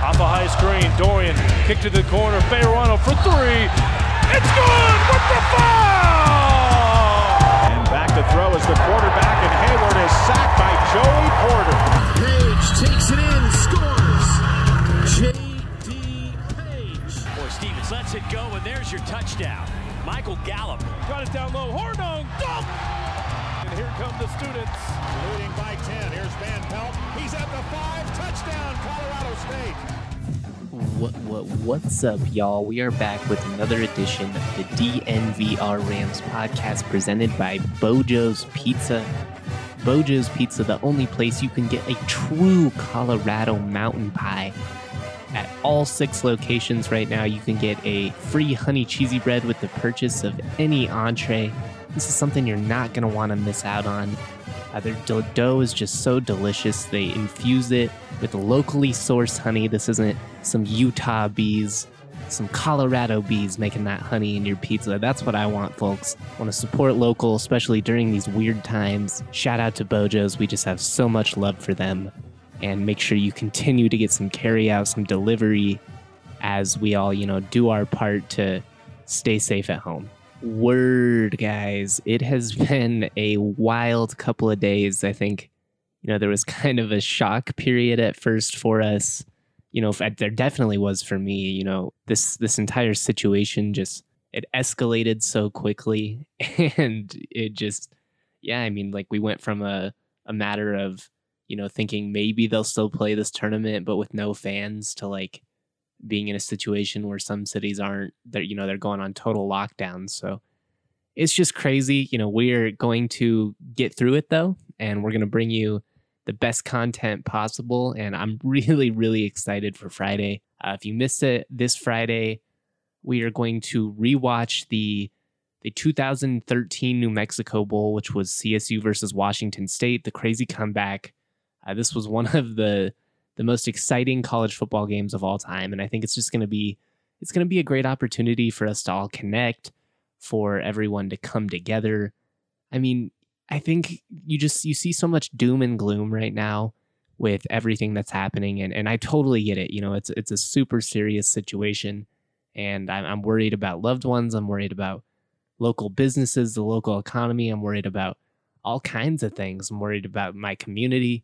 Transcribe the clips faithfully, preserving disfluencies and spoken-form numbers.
Off a high screen, Dorian kick to the corner, Bejarano for three. It's good with the foul! And back to throw is the quarterback, and Hayward is sacked by Joey Porter. Page takes it in, scores. J D. Page. Boy, Stevens lets it go, and there's your touchdown. Michael Gallup. Got it down low, Hornung, dunk! And here come the students. Leading by ten, here's Van Pelt. He's at the five, touchdown, Colorado State. What, what, what's up, y'all? We are back with another edition of the D N V R Rams podcast presented by Bojo's Pizza. Bojo's Pizza, the only place you can get a true Colorado mountain pie. At all six locations right now, you can get a free honey cheesy bread with the purchase of any entree. This is something you're not going to want to miss out on. Uh, their do- dough is just so delicious. They infuse it with locally sourced honey. This isn't some Utah bees, some Colorado bees making that honey in your pizza. That's what I want, folks. I want to support local, especially during these weird times. Shout out to Bojo's. We just have so much love for them. And make sure you continue to get some carry out, some delivery as we all, you know, do our part to stay safe at home. Word, guys. It has been a wild couple of days. I think, you know, there was kind of a shock period at first for us. You know, there definitely was for me. You know, this this entire situation just, it escalated so quickly. And it just, yeah, I mean, like we went from a, a matter of, you know, thinking maybe they'll still play this tournament, but with no fans, to like being in a situation where some cities aren't, they're, you know, they're going on total lockdown. So it's just crazy. You know, we're going to get through it though, and we're going to bring you the best content possible. And I'm really, really excited for Friday. Uh, if you missed it this Friday, we are going to rewatch the the two thousand thirteen New Mexico Bowl, which was C S U versus Washington State, the crazy comeback. Uh, this was one of the the most exciting college football games of all time, and I think it's just going to be it's going to be a great opportunity for us to all connect, for everyone to come together. I mean, I think you just you see so much doom and gloom right now with everything that's happening, and and I totally get it. You know, it's it's a super serious situation, and I'm, I'm worried about loved ones. I'm worried about local businesses, the local economy. I'm worried about all kinds of things. I'm worried about my community.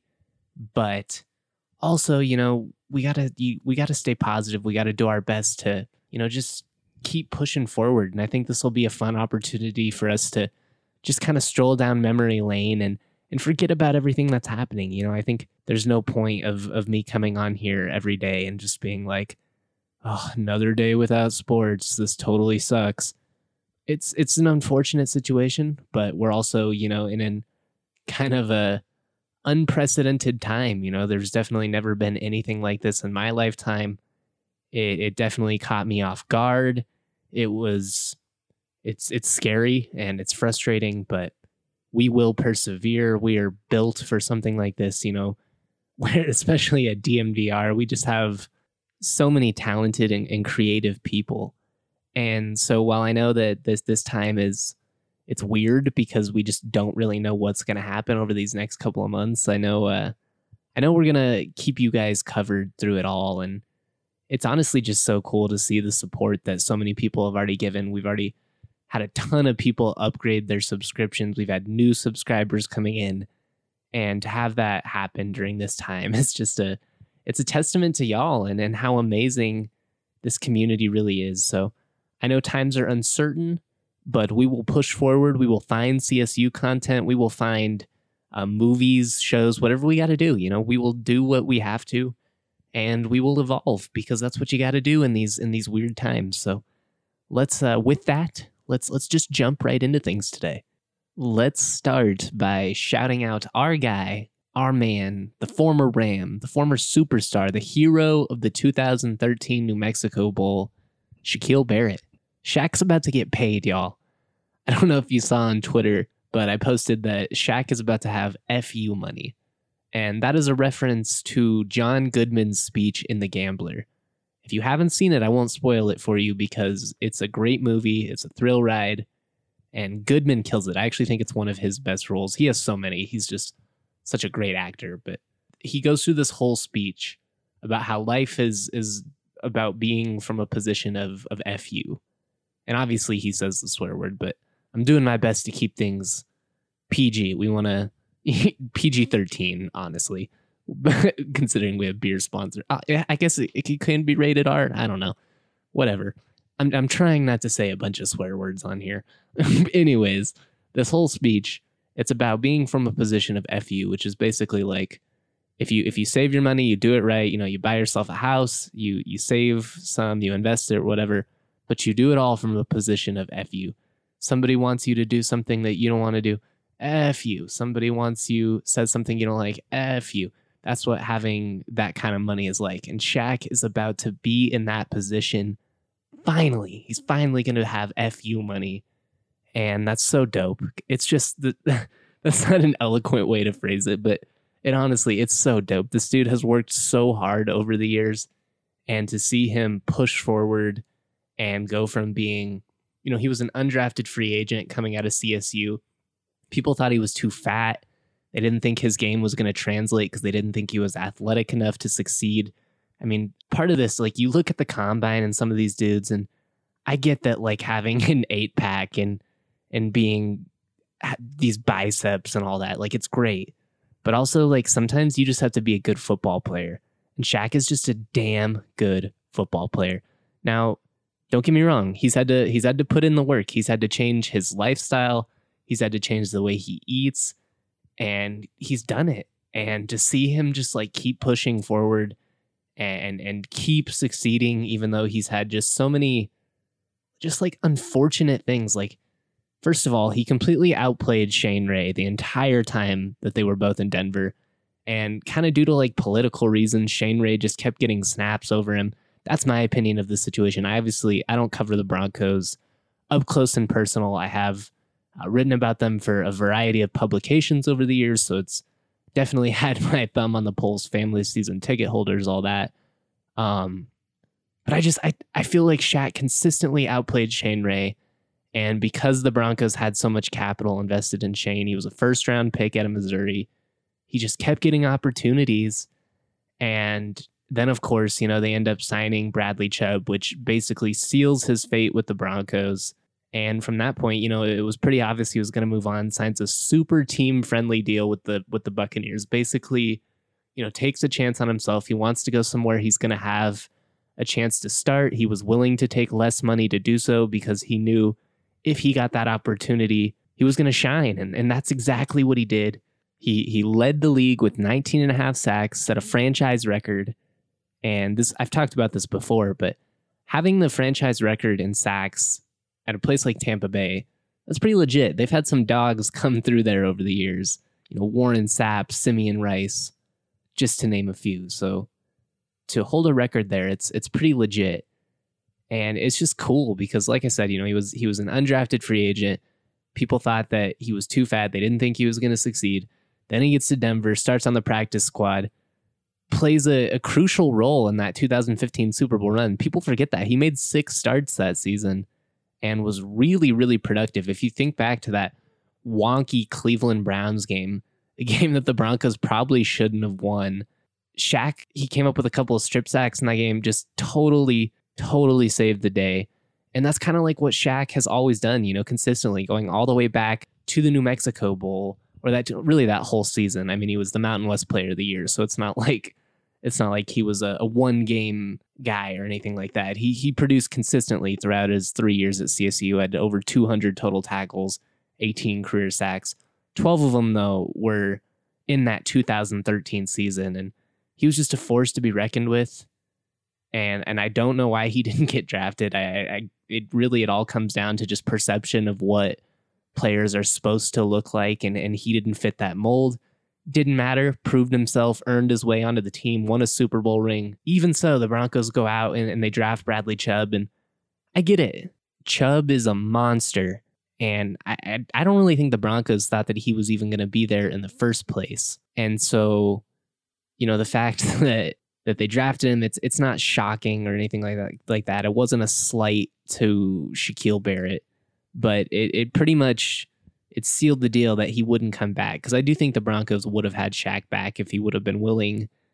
But also, you know, we gotta we gotta stay positive. We gotta do our best to, you know, just keep pushing forward. And I think this will be a fun opportunity for us to just kind of stroll down memory lane and and forget about everything that's happening. You know, I think there's no point of of me coming on here every day and just being like, oh, another day without sports. This totally sucks. It's it's an unfortunate situation, but we're also, you know, in an kind of a unprecedented time. You know, there's definitely never been anything like this in my lifetime. It, it definitely caught me off guard. It was, it's it's scary and it's frustrating, but we will persevere. We are built for something like this. You know, where especially at D M V R, we just have so many talented and, and creative people. And so while I know that this this time is it's weird because we just don't really know what's going to happen over these next couple of months. I know, uh, I know we're going to keep you guys covered through it all. And it's honestly just so cool to see the support that so many people have already given. We've already had a ton of people upgrade their subscriptions. We've had new subscribers coming in, and to have that happen during this time, it's just a, it's a testament to y'all and, and how amazing this community really is. So I know times are uncertain, but we will push forward. We will find C S U content. We will find uh, movies, shows, whatever we got to do. You know, we will do what we have to, and we will evolve because that's what you got to do in these in these weird times. So let's uh, with that, let's let's just jump right into things today. Let's start by shouting out our guy, our man, the former Ram, the former superstar, the hero of the two thousand thirteen New Mexico Bowl, Shaquille Barrett. Shaq's about to get paid, y'all. I don't know if you saw on Twitter, but I posted that Shaq is about to have F U money. And that is a reference to John Goodman's speech in The Gambler. If you haven't seen it, I won't spoil it for you because it's a great movie. It's a thrill ride. And Goodman kills it. I actually think it's one of his best roles. He has so many. He's just such a great actor. But he goes through this whole speech about how life is is about being from a position of of F U. And obviously he says the swear word, but I'm doing my best to keep things P G. We want to P G thirteen, honestly, considering we have beer sponsor. Uh, I guess it, it can be rated R. I don't know. Whatever. I'm I'm trying not to say a bunch of swear words on here. Anyways, this whole speech, it's about being from a position of F U, which is basically like, if you if you save your money, you do it right, you know, you buy yourself a house, you you save some, you invest it, whatever, but you do it all from a position of F U. Somebody wants you to do something that you don't want to do, F you. Somebody wants you, says something you don't like, F you. That's what having that kind of money is like. And Shaq is about to be in that position. Finally, he's finally going to have F U money. And that's so dope. It's just, the, that's not an eloquent way to phrase it, but it honestly, it's so dope. This dude has worked so hard over the years, and to see him push forward and go from being, you know, he was an undrafted free agent coming out of C S U. People thought he was too fat. They didn't think his game was going to translate because they didn't think he was athletic enough to succeed. I mean, part of this, like, you look at the combine and some of these dudes, and I get that, like, having an eight pack and and being these biceps and all that, like, it's great. But also, like, sometimes you just have to be a good football player. And Shaq is just a damn good football player. Now, don't get me wrong. He's had to he's had to put in the work. He's had to change his lifestyle. He's had to change the way he eats. And he's done it. And to see him just, like, keep pushing forward and and keep succeeding, even though he's had just so many just, like, unfortunate things. Like, first of all, he completely outplayed Shane Ray the entire time that they were both in Denver. And kind of due to, like, political reasons, Shane Ray just kept getting snaps over him. That's my opinion of the situation. I obviously, I don't cover the Broncos up close and personal. I have uh, written about them for a variety of publications over the years, so it's definitely had my thumb on the pulse, family season ticket holders, all that. Um, but I just, I, I feel like Shaq consistently outplayed Shane Ray. And because the Broncos had so much capital invested in Shane, he was a first round pick out of Missouri. He just kept getting opportunities. And then, of course, you know, they end up signing Bradley Chubb, which basically seals his fate with the Broncos. And from that point, you know, it was pretty obvious he was going to move on, signs a super team-friendly deal with the with the Buccaneers. Basically, you know, takes a chance on himself. He wants to go somewhere he's going to have a chance to start. He was willing to take less money to do so because he knew if he got that opportunity, he was going to shine. And, and that's exactly what he did. He he led the league with nineteen and a half sacks, set a franchise record. And this, I've talked about this before, but having the franchise record in sacks at a place like Tampa Bay, that's pretty legit. They've had some dogs come through there over the years. You know, Warren Sapp, Simeon Rice, just to name a few. So to hold a record there, it's it's pretty legit. And it's just cool because, like I said, you know, he was he was an undrafted free agent. People thought that he was too fat. They didn't think he was going to succeed. Then he gets to Denver, starts on the practice squad, plays a, a crucial role in that two thousand fifteen Super Bowl run. People forget that. He made six starts that season and was really, really productive. If you think back to that wonky Cleveland Browns game, a game that the Broncos probably shouldn't have won, Shaq, he came up with a couple of strip sacks in that game, just totally, totally saved the day. And that's kind of like what Shaq has always done, you know, consistently, going all the way back to the New Mexico Bowl, or that really that whole season. I mean, he was the Mountain West Player of the Year, so it's not like it's not like he was a, a one game guy or anything like that. He he produced consistently throughout his three years at C S U, had over two hundred total tackles, eighteen career sacks. twelve of them, though, were in that two thousand thirteen season, and he was just a force to be reckoned with. And and I don't know why he didn't get drafted. I, I it really it all comes down to just perception of what players are supposed to look like, and, and he didn't fit that mold. Didn't matter, proved himself, earned his way onto the team, won a Super Bowl ring. Even so, the Broncos go out and, and they draft Bradley Chubb, and I get it. Chubb is a monster, and I, I, I don't really think the Broncos thought that he was even going to be there in the first place. And so, you know, the fact that that they drafted him, it's it's not shocking or anything like that. Like that. It wasn't a slight to Shaquille Barrett, but it, it pretty much it sealed the deal that he wouldn't come back. Because I do think the Broncos would have had Shaq back if he would have been willing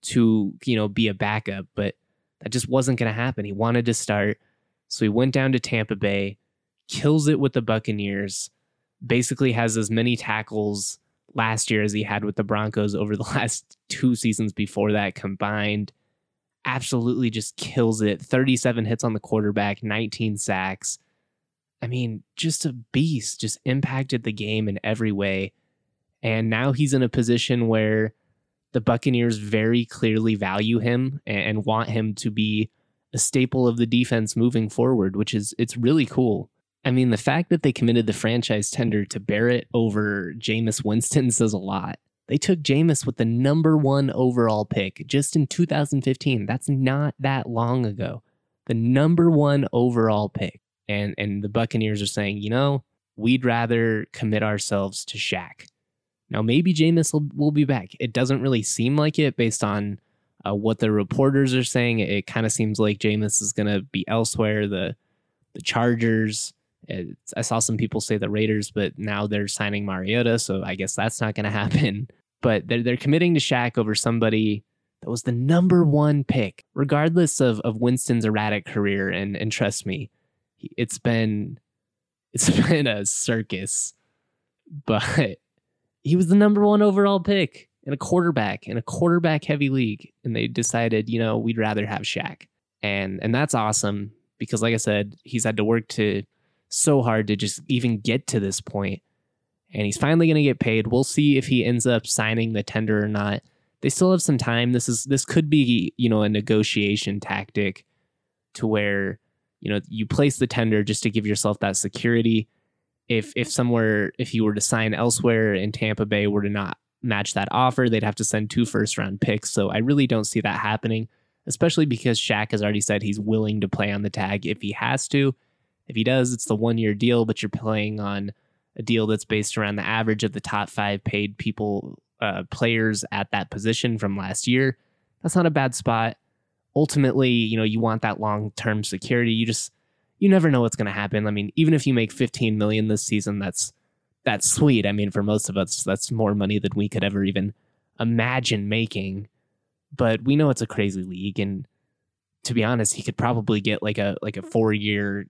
to, you know, be a backup, but that just wasn't going to happen. He wanted to start. So he went down to Tampa Bay, kills it with the Buccaneers, basically has as many tackles last year as he had with the Broncos over the last two seasons before that combined. Absolutely just kills it. thirty-seven hits on the quarterback, nineteen sacks. I mean, just a beast, just impacted the game in every way. And now he's in a position where the Buccaneers very clearly value him and want him to be a staple of the defense moving forward, which is, it's really cool. I mean, the fact that they committed the franchise tender to Barrett over Jameis Winston says a lot. They took Jameis with the number one overall pick just in two thousand fifteen. That's not that long ago. The number one overall pick. And and the Buccaneers are saying, you know, we'd rather commit ourselves to Shaq. Now, maybe Jameis will, will be back. It doesn't really seem like it based on uh, what the reporters are saying. It, it kind of seems like Jameis is going to be elsewhere. The, the Chargers... It's, I saw some people say the Raiders, but now they're signing Mariota, so I guess that's not going to happen. But they're, they're committing to Shaq over somebody that was the number one pick, regardless of, of Winston's erratic career. And and trust me, it's been it's been a circus. But he was the number one overall pick in a quarterback in a quarterback heavy league, and they decided, you know, we'd rather have Shaq, and and that's awesome because, like I said, he's had to work to. So hard to just even get to this point. And he's finally going to get paid. We'll see if he ends up signing the tender or not. They still have some time. This is this could be, you know, a negotiation tactic to where, you know, you place the tender just to give yourself that security. If if somewhere, if you were to sign elsewhere and Tampa Bay were to not match that offer, they'd have to send two first round picks. So I really don't see that happening, especially because Shaq has already said he's willing to play on the tag if he has to. If he does, it's the one-year deal, but you're playing on a deal that's based around the average of the top five paid people, uh, players at that position from last year. That's not a bad spot. Ultimately, you know, you want that long-term security. You just, you never know what's going to happen. I mean, even if you make fifteen million dollars this season, that's that's sweet. I mean, for most of us, that's more money than we could ever even imagine making. But we know it's a crazy league, and to be honest, he could probably get like a like a four-year.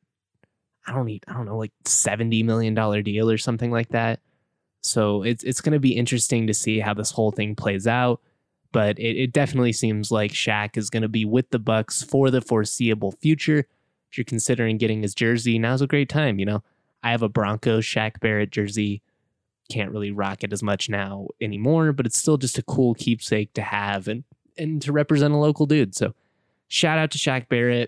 I don't need, I don't know, like seventy million dollars deal or something like that. So it's it's going to be interesting to see how this whole thing plays out. But it, it definitely seems like Shaq is going to be with the Bucks for the foreseeable future. If you're considering getting his jersey, now's a great time. You know, I have a Broncos Shaq Barrett jersey. Can't really rock it as much now anymore, but it's still just a cool keepsake to have and, and to represent a local dude. So shout out to Shaq Barrett.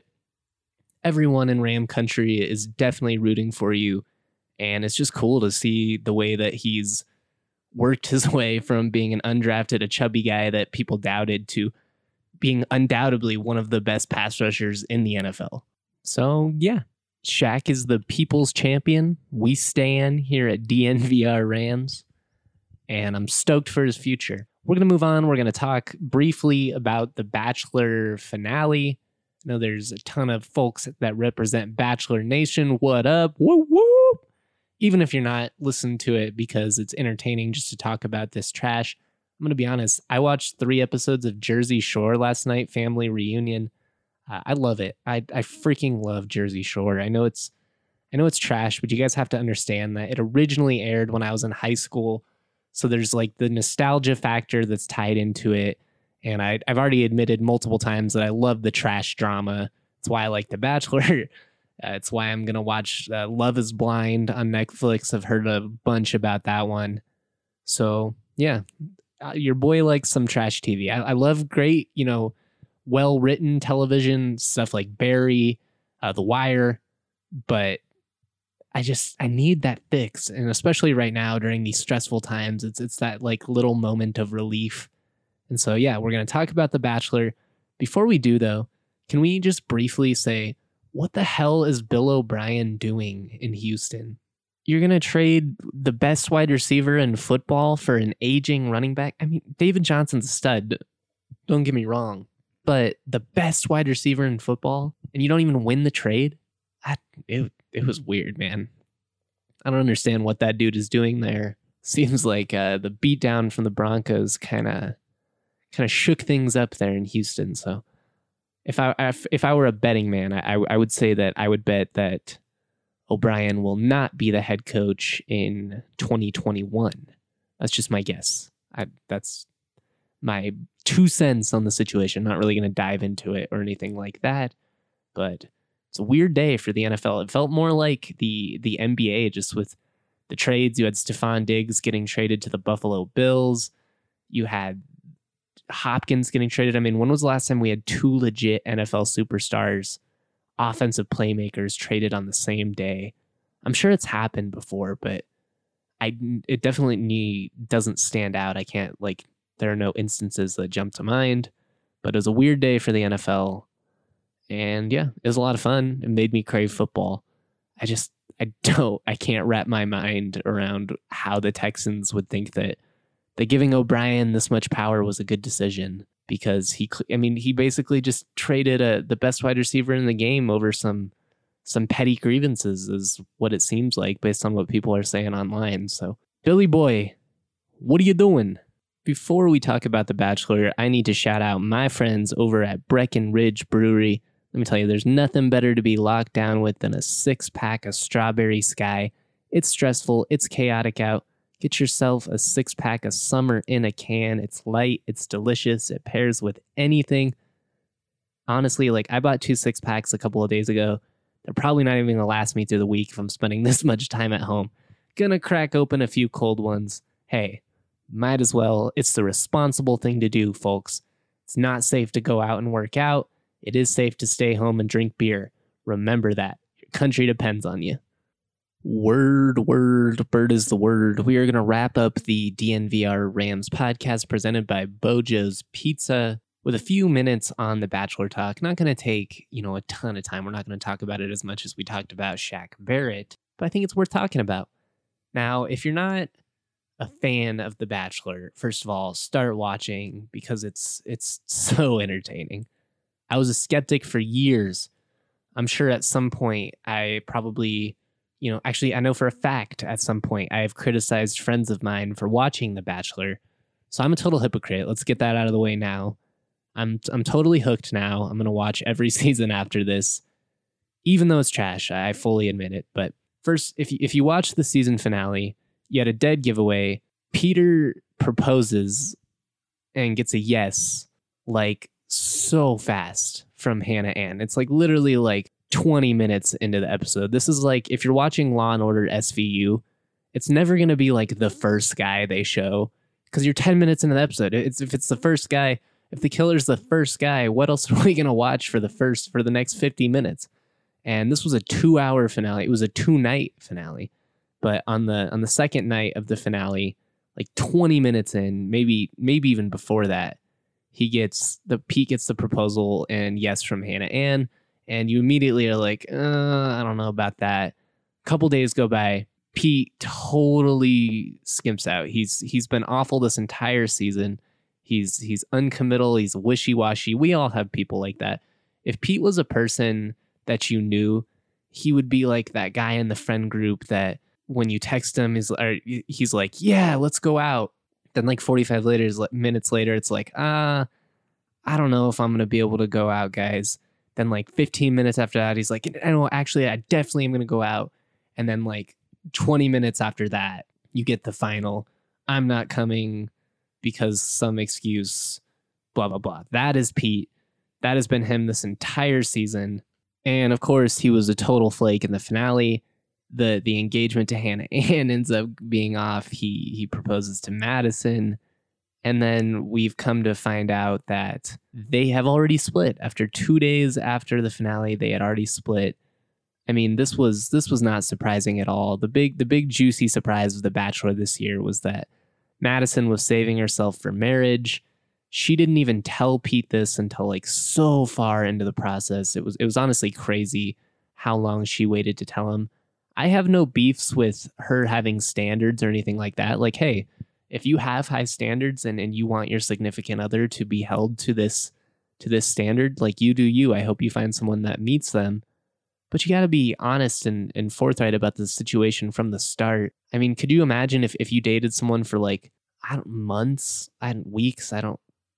Everyone in Ram country is definitely rooting for you. And it's just cool to see the way that he's worked his way from being an undrafted, a chubby guy that people doubted, to being undoubtedly one of the best pass rushers in the N F L. So yeah, Shaq is the people's champion. We stand here at D N V R Rams, and I'm stoked for his future. We're going to move on. We're going to talk briefly about the Bachelor finale. I know there's a ton of folks that represent Bachelor Nation. What up? Woo woo! Even if you're not, listen to it because it's entertaining just to talk about this trash. I'm going to be honest. I watched three episodes of Jersey Shore last night, family reunion. Uh, I love it. I I freaking love Jersey Shore. I know it's I know it's trash, but you guys have to understand that it originally aired when I was in high school. So there's like the nostalgia factor that's tied into it. And I, I've already admitted multiple times that I love the trash drama. It's why I like The Bachelor. Uh, it's why I'm going to watch uh, Love is Blind on Netflix. I've heard a bunch about that one. So, yeah, uh, your boy likes some trash T V. I, I love great, you know, well-written television, stuff like Barry, uh, The Wire. But I just, I need that fix. And especially right now during these stressful times, it's it's that like little moment of relief. And so, yeah, we're going to talk about The Bachelor. Before we do, though, can we just briefly say, what the hell is Bill O'Brien doing in Houston? You're going to trade the best wide receiver in football for an aging running back? I mean, David Johnson's a stud. Don't get me wrong. But the best wide receiver in football, and you don't even win the trade? I, it, it was weird, man. I don't understand what that dude is doing there. Seems like uh, the beatdown from the Broncos kind of... kind of shook things up there in Houston. So if I if, if I were a betting man, I I would say that I would bet that O'Brien will not be the head coach in twenty twenty-one. That's just my guess. I that's my two cents on the situation. Not really going to dive into it or anything like that, but it's a weird day for the N F L. It felt more like the the N B A, just with the trades. You had Stephon Diggs getting traded to the Buffalo Bills. You had Hopkins getting traded. I mean, when was the last time we had two legit N F L superstars, offensive playmakers traded on the same day? I'm sure it's happened before, but I it definitely need, doesn't stand out. I can't, like, there are no instances that jump to mind, but it was a weird day for the N F L. And yeah, it was a lot of fun. It made me crave football. I just, I don't, I can't wrap my mind around how the Texans would think that, that giving O'Brien this much power was a good decision, because he, I mean, he basically just traded a, the best wide receiver in the game over some, some petty grievances is what it seems like based on what people are saying online. So Billy boy, what are you doing? Before we talk about The Bachelor, I need to shout out my friends over at Breckenridge Brewery. Let me tell you, there's nothing better to be locked down with than a six-pack of Strawberry Sky. It's stressful. It's chaotic out. Get yourself a six-pack of summer in a can. It's light. It's delicious. It pairs with anything. Honestly, like, I bought two six-packs a couple of days ago. They're probably not even going to last me through the week if I'm spending this much time at home. Gonna crack open a few cold ones. Hey, might as well. It's the responsible thing to do, folks. It's not safe to go out and work out. It is safe to stay home and drink beer. Remember that. Your country depends on you. Word, word, bird is the word. We are going to wrap up the D N V R Rams podcast presented by Bojo's Pizza with a few minutes on the Bachelor talk. Not going to take, you know, a ton of time. We're not going to talk about it as much as we talked about Shaq Barrett, but I think it's worth talking about. Now, if you're not a fan of The Bachelor, first of all, start watching, because it's it's so entertaining. I was a skeptic for years. I'm sure at some point I probably, you know, actually I know for a fact at some point I have criticized friends of mine for watching The Bachelor. So I'm a total hypocrite. Let's get that out of the way now. I'm I'm totally hooked now. I'm going to watch every season after this, even though it's trash. I fully admit it. But first, if you, if you watch the season finale, you had a dead giveaway. Peter proposes and gets a yes, like, so fast from Hannah Ann. It's like literally like twenty minutes into the episode. This is like, if you're watching Law and Order S V U, it's never going to be like the first guy they show, because you're ten minutes into the episode. It's, if it's the first guy, if the killer's the first guy, what else are we going to watch for the first, for the next fifty minutes? And this was a two hour finale. It was a two night finale. But on the, on the second night of the finale, like twenty minutes in, maybe, maybe even before that, he gets the Pete gets the proposal and yes from Hannah Ann, and you immediately are like, uh, I don't know about that. A couple days go by, Pete totally skimps out. He's he's been awful this entire season. He's he's uncommittal. He's wishy-washy. We all have people like that. If Pete was a person that you knew, he would be like that guy in the friend group that when you text him, he's or he's like, yeah, let's go out. Then like forty-five later, minutes later, it's like, ah, uh, I don't know if I'm going to be able to go out, guys. Then like fifteen minutes after that, he's like, I know, actually, I definitely am going to go out. And then like twenty minutes after that, you get the final, I'm not coming because some excuse, blah, blah, blah. That is Pete. That has been him this entire season. And of course, he was a total flake in the finale. The the engagement to Hannah Ann ends up being off. He he proposes to Madison. And then we've come to find out that they have already split. After two days after the finale, they had already split. I mean, this was this was not surprising at all. The big the big juicy surprise of The Bachelor this year was that Madison was saving herself for marriage. She didn't even tell Pete this until like so far into the process. It was it was honestly crazy how long she waited to tell him. I have no beefs with her having standards or anything like that. Like, hey, if you have high standards and, and you want your significant other to be held to this to this standard, like, you do you. I hope you find someone that meets them. But you got to be honest and, and forthright about the situation from the start. I mean, could you imagine if, if you dated someone for like, I don't months, I don't weeks, I don't,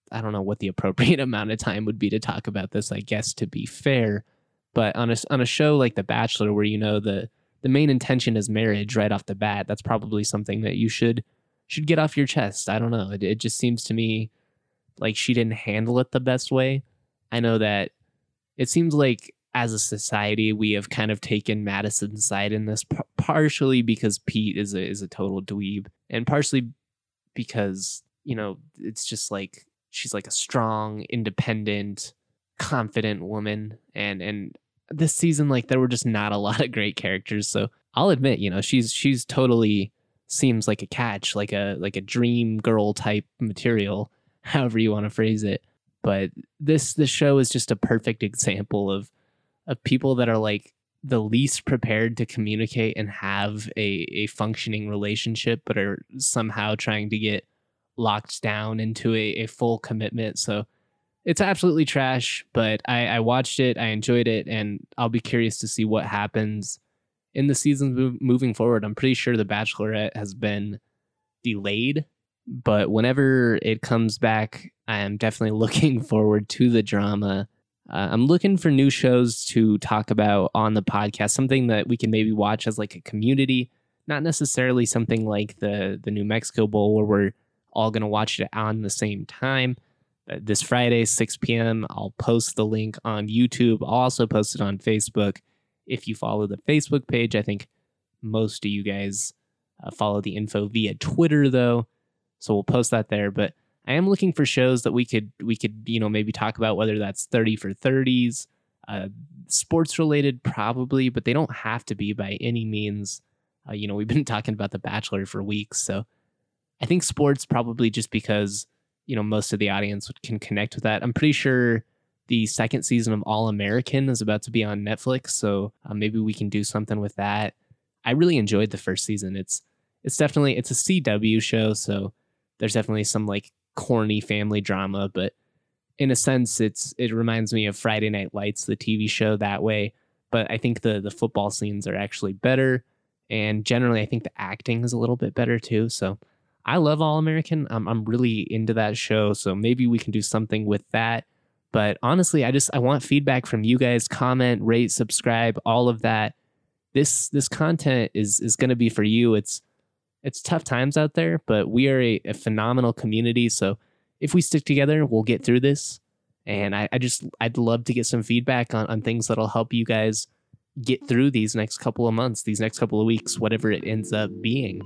I don't know what the appropriate amount of time would be to talk about this, I guess, to be fair. But on a, on a show like The Bachelor, where, you know, the, the main intention is marriage right off the bat, that's probably something that you should should get off your chest. I don't know. It, it just seems to me like she didn't handle it the best way. I know that it seems like as a society, we have kind of taken Madison's side in this, p- partially because Pete is a, is a total dweeb, and partially because, you know, it's just like, she's like a strong, independent, confident woman. And, and this season, like, there were just not a lot of great characters. So I'll admit, you know, she's, she's totally seems like a catch, like a, like a dream girl type material, however you want to phrase it. But this, this show is just a perfect example of, of people that are like the least prepared to communicate and have a, a functioning relationship, but are somehow trying to get locked down into a, a full commitment. So it's absolutely trash, but I, I watched it, I enjoyed it, and I'll be curious to see what happens in the seasons move, moving forward. I'm pretty sure The Bachelorette has been delayed, but whenever it comes back, I am definitely looking forward to the drama. Uh, I'm looking for new shows to talk about on the podcast, something that we can maybe watch as like a community, not necessarily something like the, the New Mexico Bowl where we're all going to watch it on the same time. Uh, this Friday, six p.m., I'll post the link on YouTube. I'll also post it on Facebook. If you follow the Facebook page, I think most of you guys uh, follow the info via Twitter, though, so we'll post that there. But I am looking for shows that we could, we could, you know, maybe talk about, whether that's thirty for thirties, uh, sports related, probably, but they don't have to be by any means. Uh, you know, we've been talking about The Bachelor for weeks, so I think sports probably just because, you know, most of the audience can connect with that. I'm pretty sure the second season of All American is about to be on Netflix, so uh, maybe we can do something with that. I really enjoyed the first season. It's, it's definitely, it's a C W show, so there's definitely some like corny family drama, but in a sense, it's it reminds me of Friday Night Lights, the T V show, that way. But I think the the football scenes are actually better, and generally, I think the acting is a little bit better too. So I love All American. I'm I'm really into that show, so maybe we can do something with that. But honestly, I just I want feedback from you guys. Comment, rate, subscribe, all of that. This this content is is going to be for you. It's It's tough times out there, but we are a, a phenomenal community. So if we stick together, we'll get through this. And I, I just, I'd love to get some feedback on, on things that'll help you guys get through these next couple of months, these next couple of weeks, whatever it ends up being.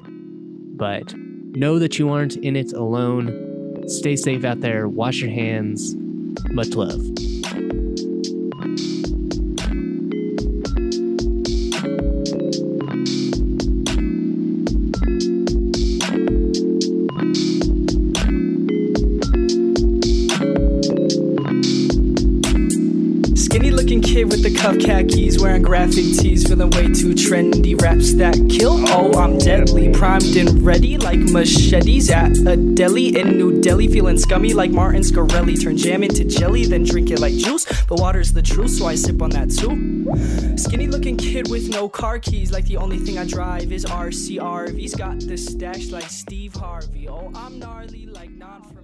But know that you aren't in it alone. Stay safe out there. Wash your hands. Much love. Kid with the cuff khakis, wearing graphic tees, feeling way too trendy. Raps that kill, oh I'm deadly, primed and ready like machetes at a deli in New Delhi. Feeling scummy like Martin Scarelli, turn jam into jelly, then drink it like juice. But water's the truth, so I sip on that too. Skinny looking kid with no car keys, like the only thing I drive is R C R V's. Got the stash like Steve Harvey, oh I'm gnarly like non